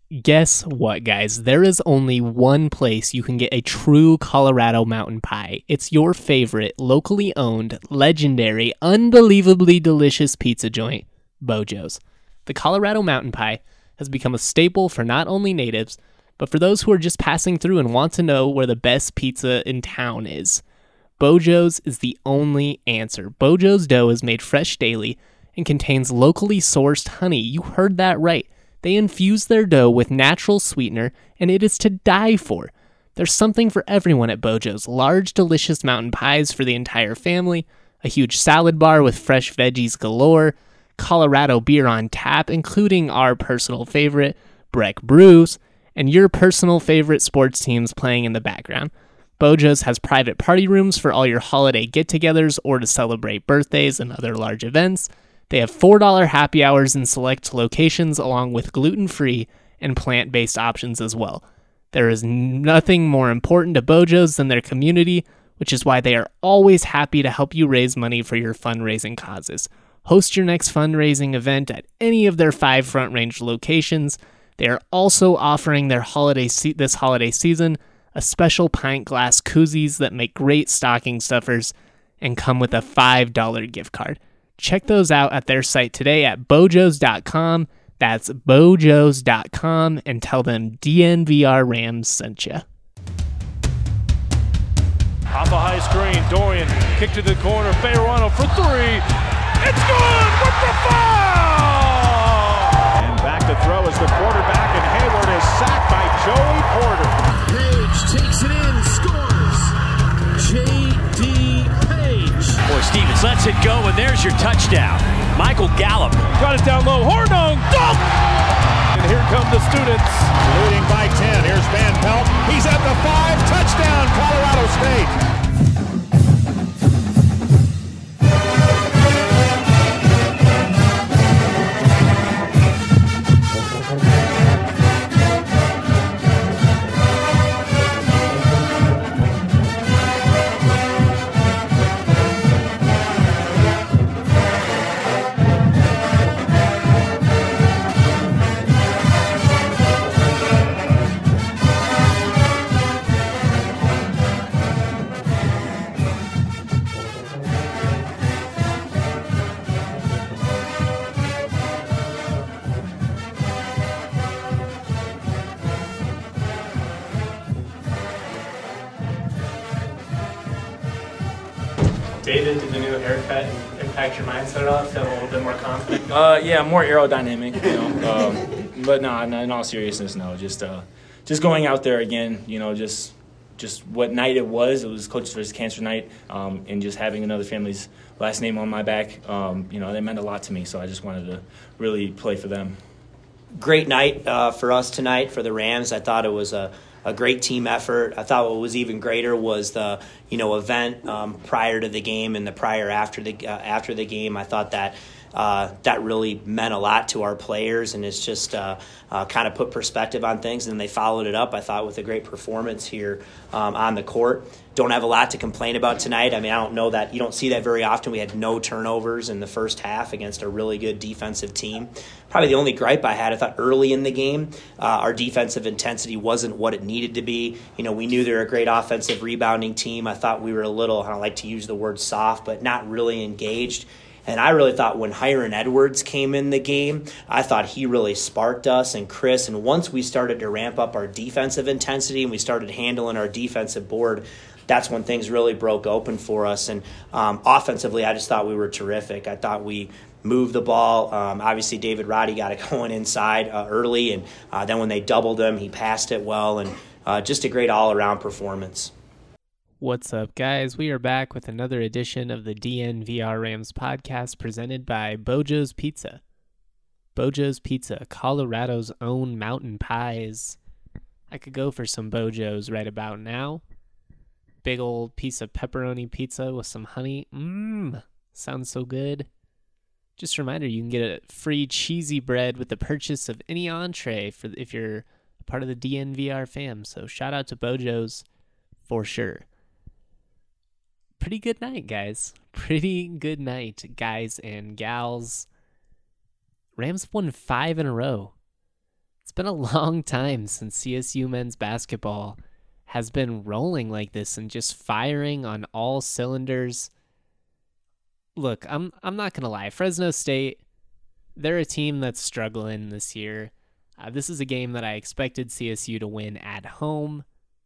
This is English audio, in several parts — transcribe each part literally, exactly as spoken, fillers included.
Guess what, guys? There is only one place you can get a true Colorado mountain pie. It's your favorite, locally owned, legendary, unbelievably delicious pizza joint, Bojo's. The Colorado mountain pie has become a staple for not only natives, but for those who are just passing through and want to know where the best pizza in town is. Bojo's is the only answer. Bojo's dough is made fresh daily and contains locally sourced honey. You heard that right. They infuse their dough with natural sweetener, and it is to die for. There's something for everyone at Bojo's. Large, delicious mountain pies for the entire family, a huge salad bar with fresh veggies galore, Colorado beer on tap, including our personal favorite, Breck Brews, and your personal favorite sports teams playing in the background. Bojo's has private party rooms for all your holiday get-togethers or to celebrate birthdays and other large events. They have four dollars happy hours in select locations along with gluten-free and plant-based options as well. There is nothing more important to Bojo's than their community, which is why they are always happy to help you raise money for your fundraising causes. Host your next fundraising event at any of their five Front Range locations. They are also offering their holiday se- this holiday season a special pint glass koozies that make great stocking stuffers and come with a five dollars gift card. Check those out at their site today at bojos dot com. That's bojos dot com, and tell them D N V R Rams sent you. Off a high screen, Dorian kick to the corner, Fayerano for three. It's good with the foul! And back to throw is the quarterback, and Hayward is sacked by Joey Porter. Page takes it in, scores. J D Or Stevens lets it go, and there's your touchdown. Michael Gallup. Got it down low. Hornung. Dunk! And here come the students. Leading by ten. Here's Van Pelt. He's at the five. Touchdown, Colorado State. David, did the new haircut impact your mindset at all? Feel a little bit more confident? Uh, yeah, more aerodynamic, you know. Um, but no, no, in all seriousness, no. Just, uh, just going out there again, you know, just, just what night it was. It was Coaches versus Cancer night, um, and just having another family's last name on my back, um, you know, that meant a lot to me. So I just wanted to really play for them. Great night uh, for us tonight for the Rams. I thought it was a. a great team effort. I thought what was even greater was the you know event um, prior to the game and the prior after the uh, after the game. I thought that uh, that really meant a lot to our players, and it's just uh, uh, kind of put perspective on things. And they followed it up, I thought, with a great performance here um, on the court. Don't have a lot to complain about tonight. I mean, I don't know that you don't see that very often. We had no turnovers in the first half against a really good defensive team. Probably the only gripe I had, I thought early in the game, uh, our defensive intensity wasn't what it needed to be. You know, we knew they were a great offensive rebounding team. I thought we were a little, I don't like to use the word soft, but not really engaged. And I really thought when Hiron Edwards came in the game, I thought he really sparked us and Chris. And once we started to ramp up our defensive intensity and we started handling our defensive board, that's when things really broke open for us. And um, offensively, I just thought we were terrific. I thought we moved the ball. Um, obviously, David Roddy got it going inside uh, early, and uh, then when they doubled him, he passed it well, and uh, just a great all-around performance. What's up, guys? We are back with another edition of the D N V R Rams podcast presented by Bojo's Pizza. Bojo's Pizza, Colorado's own mountain pies. I could go for some Bojo's right about now. Big old piece of pepperoni pizza with some honey. Mmm, sounds so good. Just a reminder, you can get a free cheesy bread with the purchase of any entree for if you're a part of the D N V R fam. So shout out to Bojo's for sure. Pretty good night, guys. Pretty good night, guys and gals. Rams won five in a row. It's been a long time since C S U men's basketball has been rolling like this and just firing on all cylinders. Look, I'm I'm not going to lie. Fresno State, they're a team that's struggling this year. Uh, this is a game that I expected C S U to win at home.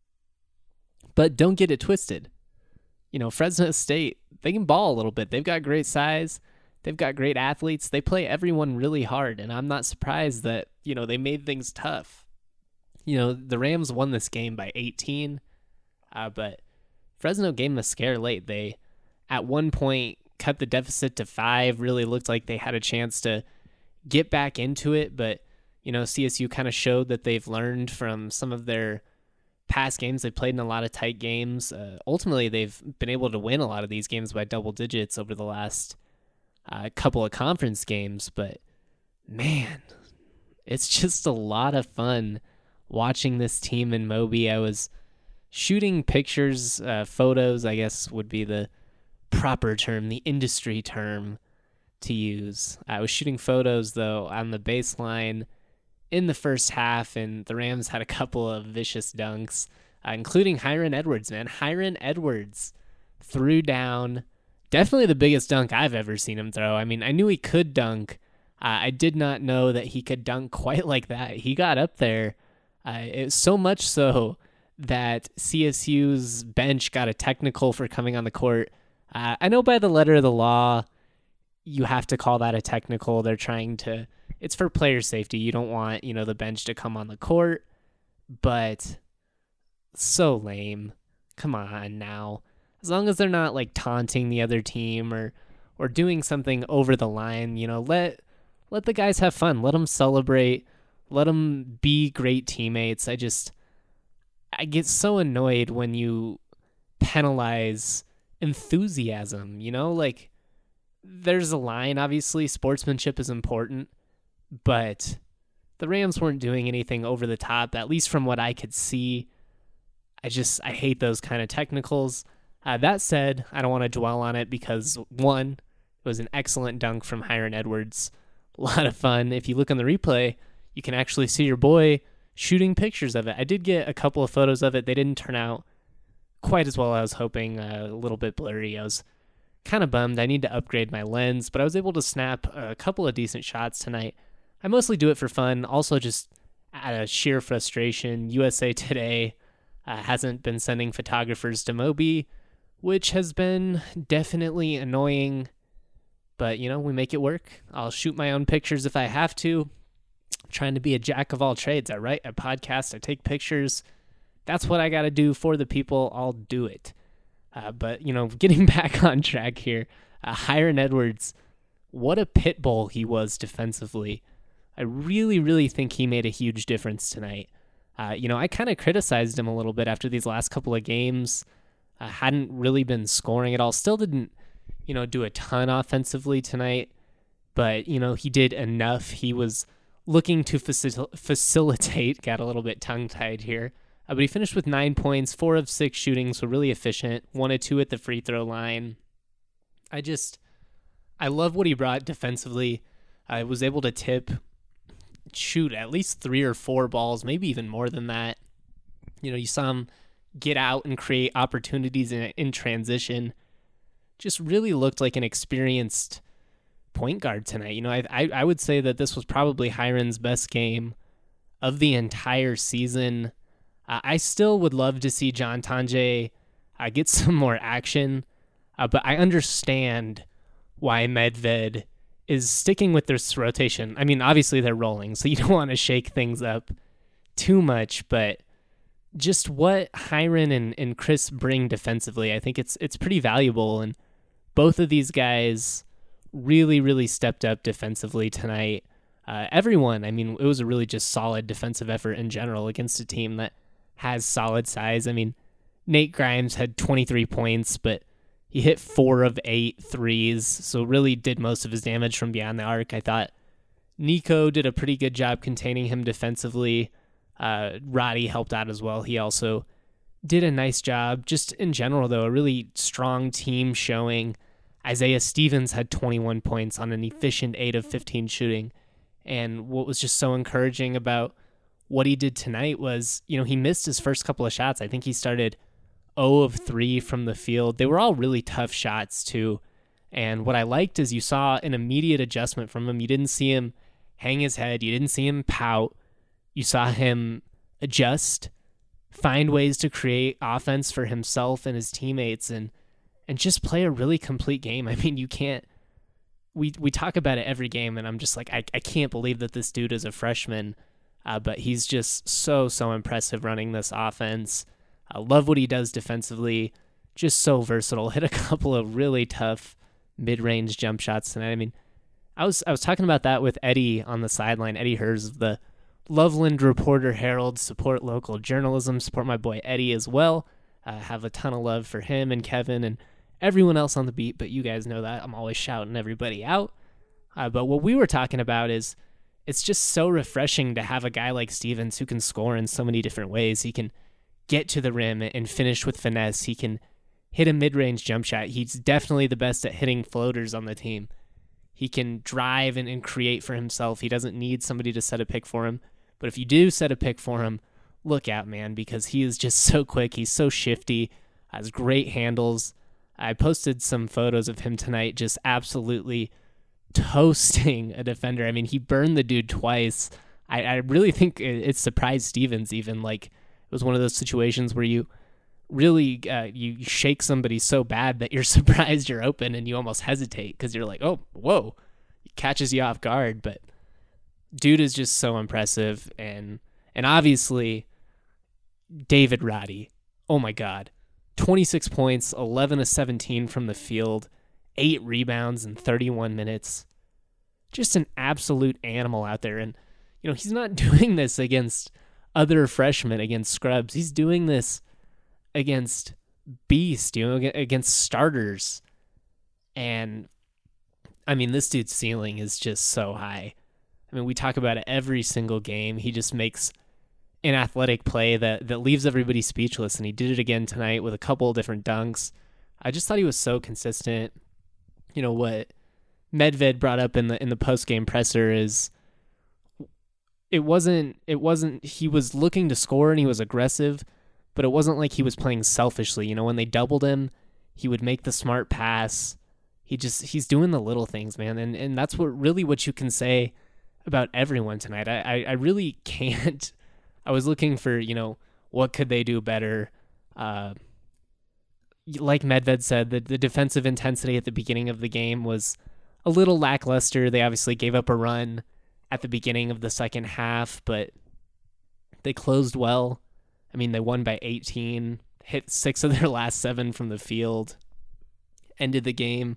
But don't get it twisted. You know, Fresno State, they can ball a little bit. They've got great size. They've got great athletes. They play everyone really hard, and I'm not surprised that, you know, they made things tough. You know, the Rams won this game by eighteen, uh, but Fresno gave them a scare late. They, at one point, cut the deficit to five, really looked like they had a chance to get back into it, but, you know, C S U kind of showed that they've learned from some of their past games. They played in a lot of tight games. Uh, ultimately, they've been able to win a lot of these games by double digits over the last a uh, couple of conference games, but man, it's just a lot of fun watching this team in Moby. I was shooting pictures, uh, photos, I guess would be the proper term, the industry term to use. I was shooting photos, though, on the baseline in the first half, and the Rams had a couple of vicious dunks, uh, including Hiron Edwards, man. Hiron Edwards threw down definitely the biggest dunk I've ever seen him throw. I mean, I knew he could dunk. Uh, I did not know that he could dunk quite like that. He got up there. Uh, it was so much so that C S U's bench got a technical for coming on the court. Uh, I know by the letter of the law, you have to call that a technical. They're trying to, it's for player safety. You don't want, you know, the bench to come on the court, but so lame. Come on now. As long as they're not like taunting the other team or or doing something over the line, you know, let let the guys have fun. Let them celebrate. Let them be great teammates. I just, I get so annoyed when you penalize enthusiasm, you know? Like, there's a line, obviously, sportsmanship is important, but the Rams weren't doing anything over the top, at least from what I could see. I just, I hate those kind of technicals. Uh, that said, I don't want to dwell on it because, one, it was an excellent dunk from Hiron Edwards. A lot of fun. If you look on the replay, you can actually see your boy shooting pictures of it. I did get a couple of photos of it. They didn't turn out quite as well as I was hoping, uh, a little bit blurry. I was kind of bummed. I need to upgrade my lens, but I was able to snap a couple of decent shots tonight. I mostly do it for fun, also just out of sheer frustration. U S A Today uh, hasn't been sending photographers to Moby, which has been definitely annoying, but, you know, we make it work. I'll shoot my own pictures if I have to. I'm trying to be a jack of all trades. I write a podcast, I take pictures. That's what I got to do for the people. I'll do it. Uh, but, you know, getting back on track here, uh, Hiron Edwards, what a pit bull he was defensively. I really, really think he made a huge difference tonight. Uh, you know, I kind of criticized him a little bit after these last couple of games. Uh, hadn't really been scoring at all. Still didn't, you know, do a ton offensively tonight, but, you know, he did enough. He was looking to facil- facilitate, got a little bit tongue-tied here, uh, but he finished with nine points, four of six shooting, so really efficient, one of two at the free throw line. I just, I love what he brought defensively. I was able to tip, shoot at least three or four balls, maybe even more than that. You know, you saw him get out and create opportunities in, in transition. Just really looked like an experienced point guard tonight. You know, I, I I would say that this was probably Hiron's best game of the entire season. Uh, I still would love to see John Tonje uh, get some more action, uh, but I understand why Medved is sticking with this rotation. I mean, obviously they're rolling, so you don't want to shake things up too much, but just what Hiron and, and Chris bring defensively, I think it's it's pretty valuable, and both of these guys really, really stepped up defensively tonight. Uh, everyone, I mean, it was a really just solid defensive effort in general against a team that has solid size. I mean, Nate Grimes had twenty-three points, but he hit four of eight threes, so really did most of his damage from beyond the arc. I thought Nico did a pretty good job containing him defensively. Uh, Roddy helped out as well. He also did a nice job. Just in general, though, a really strong team showing. Isaiah Stevens had twenty-one points on an efficient eight of fifteen shooting. And what was just so encouraging about what he did tonight was, you know, he missed his first couple of shots. I think he started zero of three from the field. They were all really tough shots too. And what I liked is you saw an immediate adjustment from him. You didn't see him hang his head. You didn't see him pout. You saw him adjust, find ways to create offense for himself and his teammates, and and just play a really complete game. I mean, you can't, we we talk about it every game, and I'm just like, I, I can't believe that this dude is a freshman, uh, but he's just so, so impressive running this offense. I love what he does defensively, just so versatile. Hit a couple of really tough mid-range jump shots tonight. I mean, I was I was talking about that with Eddie on the sideline, Eddie Hers of the Loveland Reporter Herald. Support local journalism, support my boy Eddie as well. I uh, have a ton of love for him and Kevin and everyone else on the beat, but you guys know that. I'm always shouting everybody out. Uh, but what we were talking about is it's just so refreshing to have a guy like Stevens who can score in so many different ways. He can get to the rim and finish with finesse. He can hit a mid-range jump shot. He's definitely the best at hitting floaters on the team. He can drive and, and create for himself. He doesn't need somebody to set a pick for him. But if you do set a pick for him, look out, man, because he is just so quick. He's so shifty, has great handles. I posted some photos of him tonight just absolutely toasting a defender. I mean, he burned the dude twice. I, I really think it, it surprised Stevens even. Like, it was one of those situations where you really uh, you shake somebody so bad that you're surprised you're open and you almost hesitate because you're like, oh, whoa. It catches you off guard. But dude is just so impressive. And and obviously, David Roddy, oh my God. twenty-six points, eleven of seventeen from the field, eight rebounds in thirty-one minutes. Just an absolute animal out there. And, you know, he's not doing this against other freshmen, against scrubs. He's doing this against beast, you know, against starters. And, I mean, this dude's ceiling is just so high. I mean, we talk about it every single game. He just makes an athletic play that, that leaves everybody speechless, and he did it again tonight with a couple of different dunks. I just thought he was so consistent. You know, what Medved brought up in the in the post-game presser is it wasn't it wasn't he was looking to score and he was aggressive, but it wasn't like he was playing selfishly. You know, when they doubled him, he would make the smart pass. He just he's doing the little things, man, and and that's what really what you can say about everyone tonight. I I, I really can't. I was looking for, you know, what could they do better? Uh, like Medved said, the, the defensive intensity at the beginning of the game was a little lackluster. They obviously gave up a run at the beginning of the second half, but they closed well. I mean, they won by eighteen, hit six of their last seven from the field, ended the game.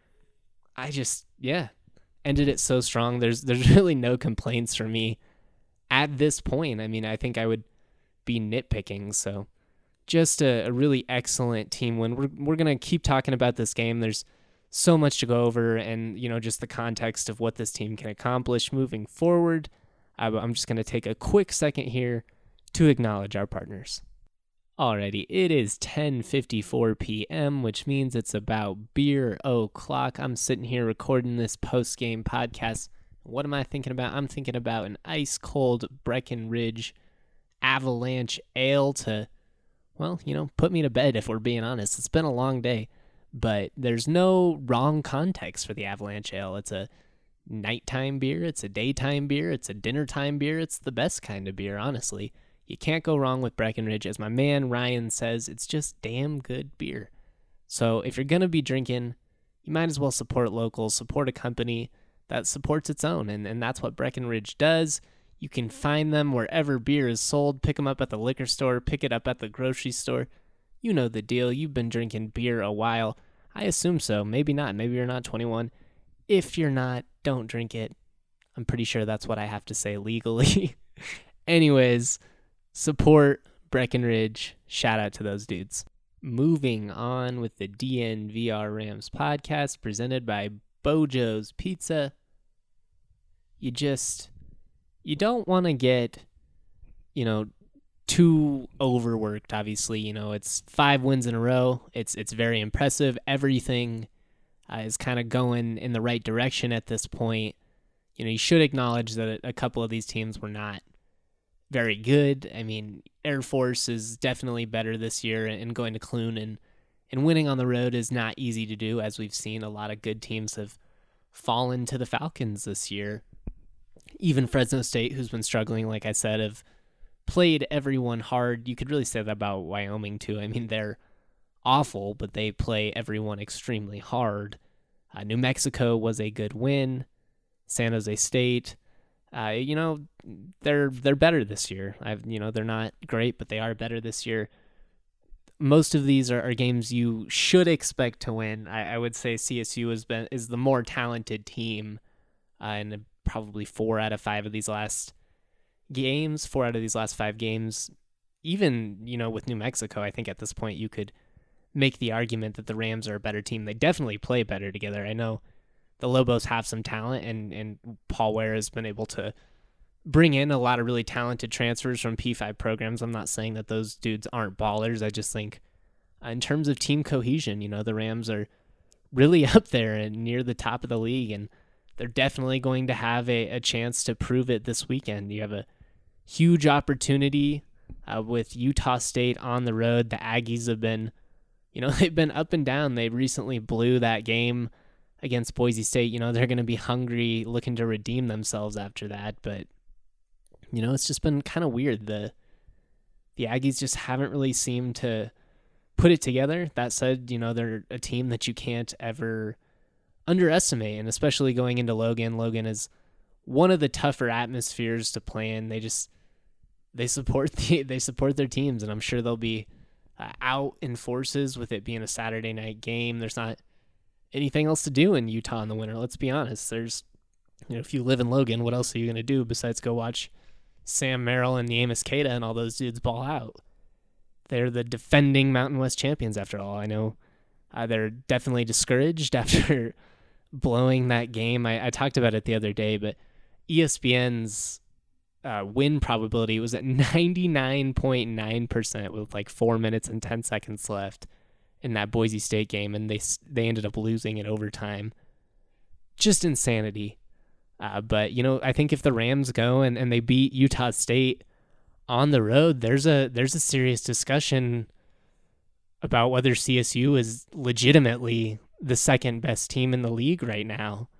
I just, yeah, ended it so strong. There's there's really no complaints for me at this point. I mean, I think I would be nitpicking. So just a, a really excellent team win. We're we're gonna keep talking about this game. There's so much to go over, and you know, just the context of what this team can accomplish moving forward. Uh, I'm just gonna take a quick second here to acknowledge our partners. Alrighty, it is ten fifty-four p.m., which means it's about beer o'clock. I'm sitting here recording this post-game podcast. What am I thinking about? I'm thinking about an ice-cold Breckenridge Avalanche Ale to, well, you know, put me to bed if we're being honest. It's been a long day, but there's no wrong context for the Avalanche Ale. It's a nighttime beer. It's a daytime beer. It's a dinnertime beer. It's the best kind of beer, honestly. You can't go wrong with Breckenridge. As my man Ryan says, it's just damn good beer. So if you're going to be drinking, you might as well support local, support a company that supports its own, and, and that's what Breckenridge does. You can find them wherever beer is sold. Pick them up at the liquor store, pick it up at the grocery store. You know the deal. You've been drinking beer a while. I assume so. Maybe not. Maybe you're not twenty-one. If you're not, don't drink it. I'm pretty sure that's what I have to say legally. Anyways, support Breckenridge. Shout out to those dudes. Moving on with the D N V R Rams podcast presented by Bojo's Pizza. You just, you don't want to get, you know, too overworked, obviously. You know, it's five wins in a row. It's it's very impressive. Everything uh, is kind of going in the right direction at this point. You know, you should acknowledge that a couple of these teams were not very good. I mean, Air Force is definitely better this year, and going to Clune and, and winning on the road is not easy to do, as we've seen a lot of good teams have fallen to the Falcons this year. Even Fresno State, who's been struggling, like I said, have played everyone hard. You could really say that about Wyoming too. I mean, they're awful, but they play everyone extremely hard. Uh, New Mexico was a good win. San Jose State, uh, you know, they're they're better this year. I've you know they're not great, but they are better this year. Most of these are, are games you should expect to win. I, I would say C S U has been is the more talented team, uh, and probably four out of five of these last games, four out of these last five games, even, you know, with New Mexico, I think at this point you could make the argument that the Rams are a better team. They definitely play better together. I know the Lobos have some talent, and, and Paul Ware has been able to bring in a lot of really talented transfers from P five programs. I'm not saying that those dudes aren't ballers. I just think uh, in terms of team cohesion, you know, the Rams are really up there and near the top of the league, and they're definitely going to have a, a chance to prove it this weekend. You have a huge opportunity uh, with Utah State on the road. The Aggies have been, you know, they've been up and down. They recently blew that game against Boise State. You know, they're going to be hungry, looking to redeem themselves after that. But, you know, it's just been kind of weird. The the Aggies just haven't really seemed to put it together. That said, you know, they're a team that you can't ever underestimate, and especially going into Logan. Logan is one of the tougher atmospheres to play in. They just they support the they support their teams, and I'm sure they'll be uh, out in forces with it being a Saturday night game. There's not anything else to do in Utah in the winter. Let's be honest. There's, you know, if you live in Logan, what else are you going to do besides go watch Sam Merrill and Neemias Queta and all those dudes ball out? They're the defending Mountain West champions after all. I know uh, they're definitely discouraged after blowing that game. I, I talked about it the other day, but E S P N's uh, win probability was at ninety-nine point nine percent with like four minutes and ten seconds left in that Boise State game, and they they ended up losing in overtime. Just insanity. Uh, but, you know, I think if the Rams go and, and they beat Utah State on the road, there's a there's a serious discussion about whether C S U is legitimately the second best team in the league right now.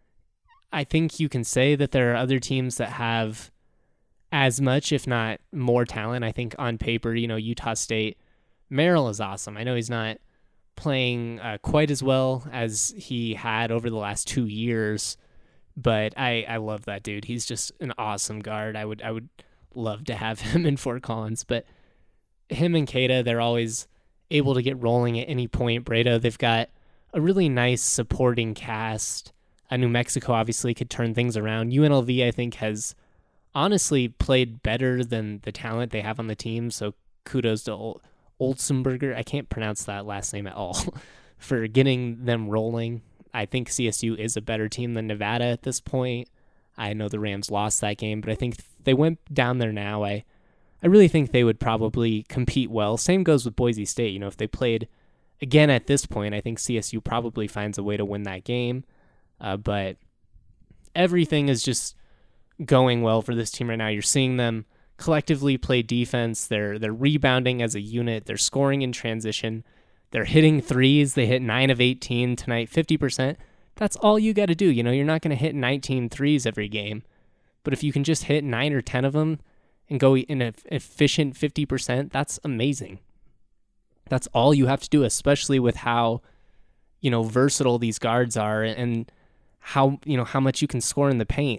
I think you can say that there are other teams that have as much, if not more talent. I think on paper, you know, Utah State, Merrill is awesome. I know he's not playing uh, quite as well as he had over the last two years, but I, I love that dude. He's just an awesome guard. I would I would love to have him in Fort Collins, but him and Queta, they're always able to get rolling at any point. Breda, they've got a really nice supporting cast. Uh, New Mexico obviously could turn things around. U N L V, I think, has honestly played better than the talent they have on the team, so kudos to Ol- Olsenberger. I can't pronounce that last name at all for getting them rolling. I think C S U is a better team than Nevada at this point. I know the Rams lost that game, but I think if they went down there now, I, I really think they would probably compete well. Same goes with Boise State. You know, if they played again at this point, I think C S U probably finds a way to win that game. Uh, but everything is just going well for this team right now. You're seeing them collectively play defense. They're they're rebounding as a unit. They're scoring in transition. They're hitting threes. They hit nine of eighteen tonight, fifty percent. That's all you got to do. You know, you're not going to hit nineteen threes every game. But if you can just hit nine or ten of them and go in an efficient fifty percent, that's amazing. That's all you have to do, especially with how, you know, versatile these guards are and how, you know, how much you can score in the paint.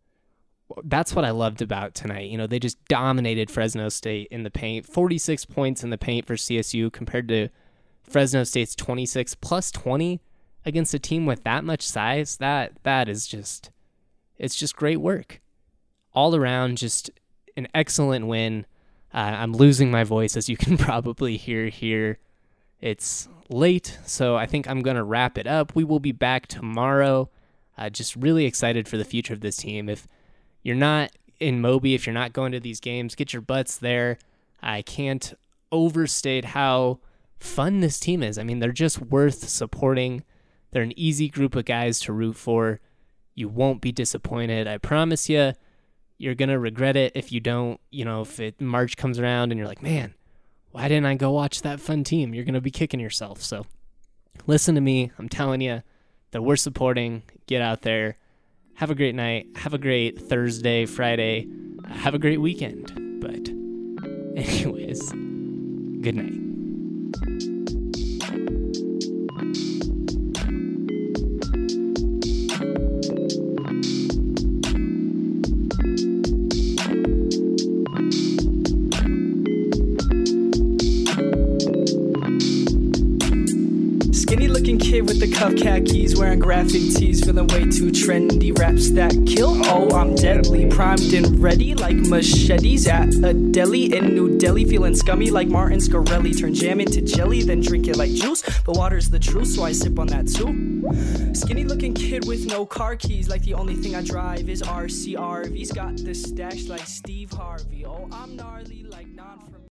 That's what I loved about tonight. You know, they just dominated Fresno State in the paint. forty-six points in the paint for C S U compared to Fresno State's twenty-six plus twenty against a team with that much size. That that is just, it's just great work. All around, just an excellent win. Uh, I'm losing my voice, as you can probably hear here. It's late, so I think I'm going to wrap it up. We will be back tomorrow. Uh, just really excited for the future of this team. If you're not in Moby, if you're not going to these games, get your butts there. I can't overstate how fun this team is. I mean, they're just worth supporting. They're an easy group of guys to root for. You won't be disappointed. I promise you, You're going to regret it if you don't, you know, if it March comes around and you're like, man, why didn't I go watch that fun team? You're going to be kicking yourself. So listen to me. I'm telling you that we're supporting. Get out there. Have a great night. Have a great Thursday, Friday. Have a great weekend. But anyways, good night. Skinny looking kid with the cuff khakis, wearing graphic tees, feeling way too trendy. Raps that kill, oh I'm deadly, primed and ready like machetes at a deli in New Delhi. Feeling scummy like Martin Scarelli, turn jam into jelly, then drink it like juice. But water's the truth, so I sip on that too. Skinny looking kid with no car keys, like the only thing I drive is R C R V's. Got the stash like Steve Harvey, oh I'm gnarly like non from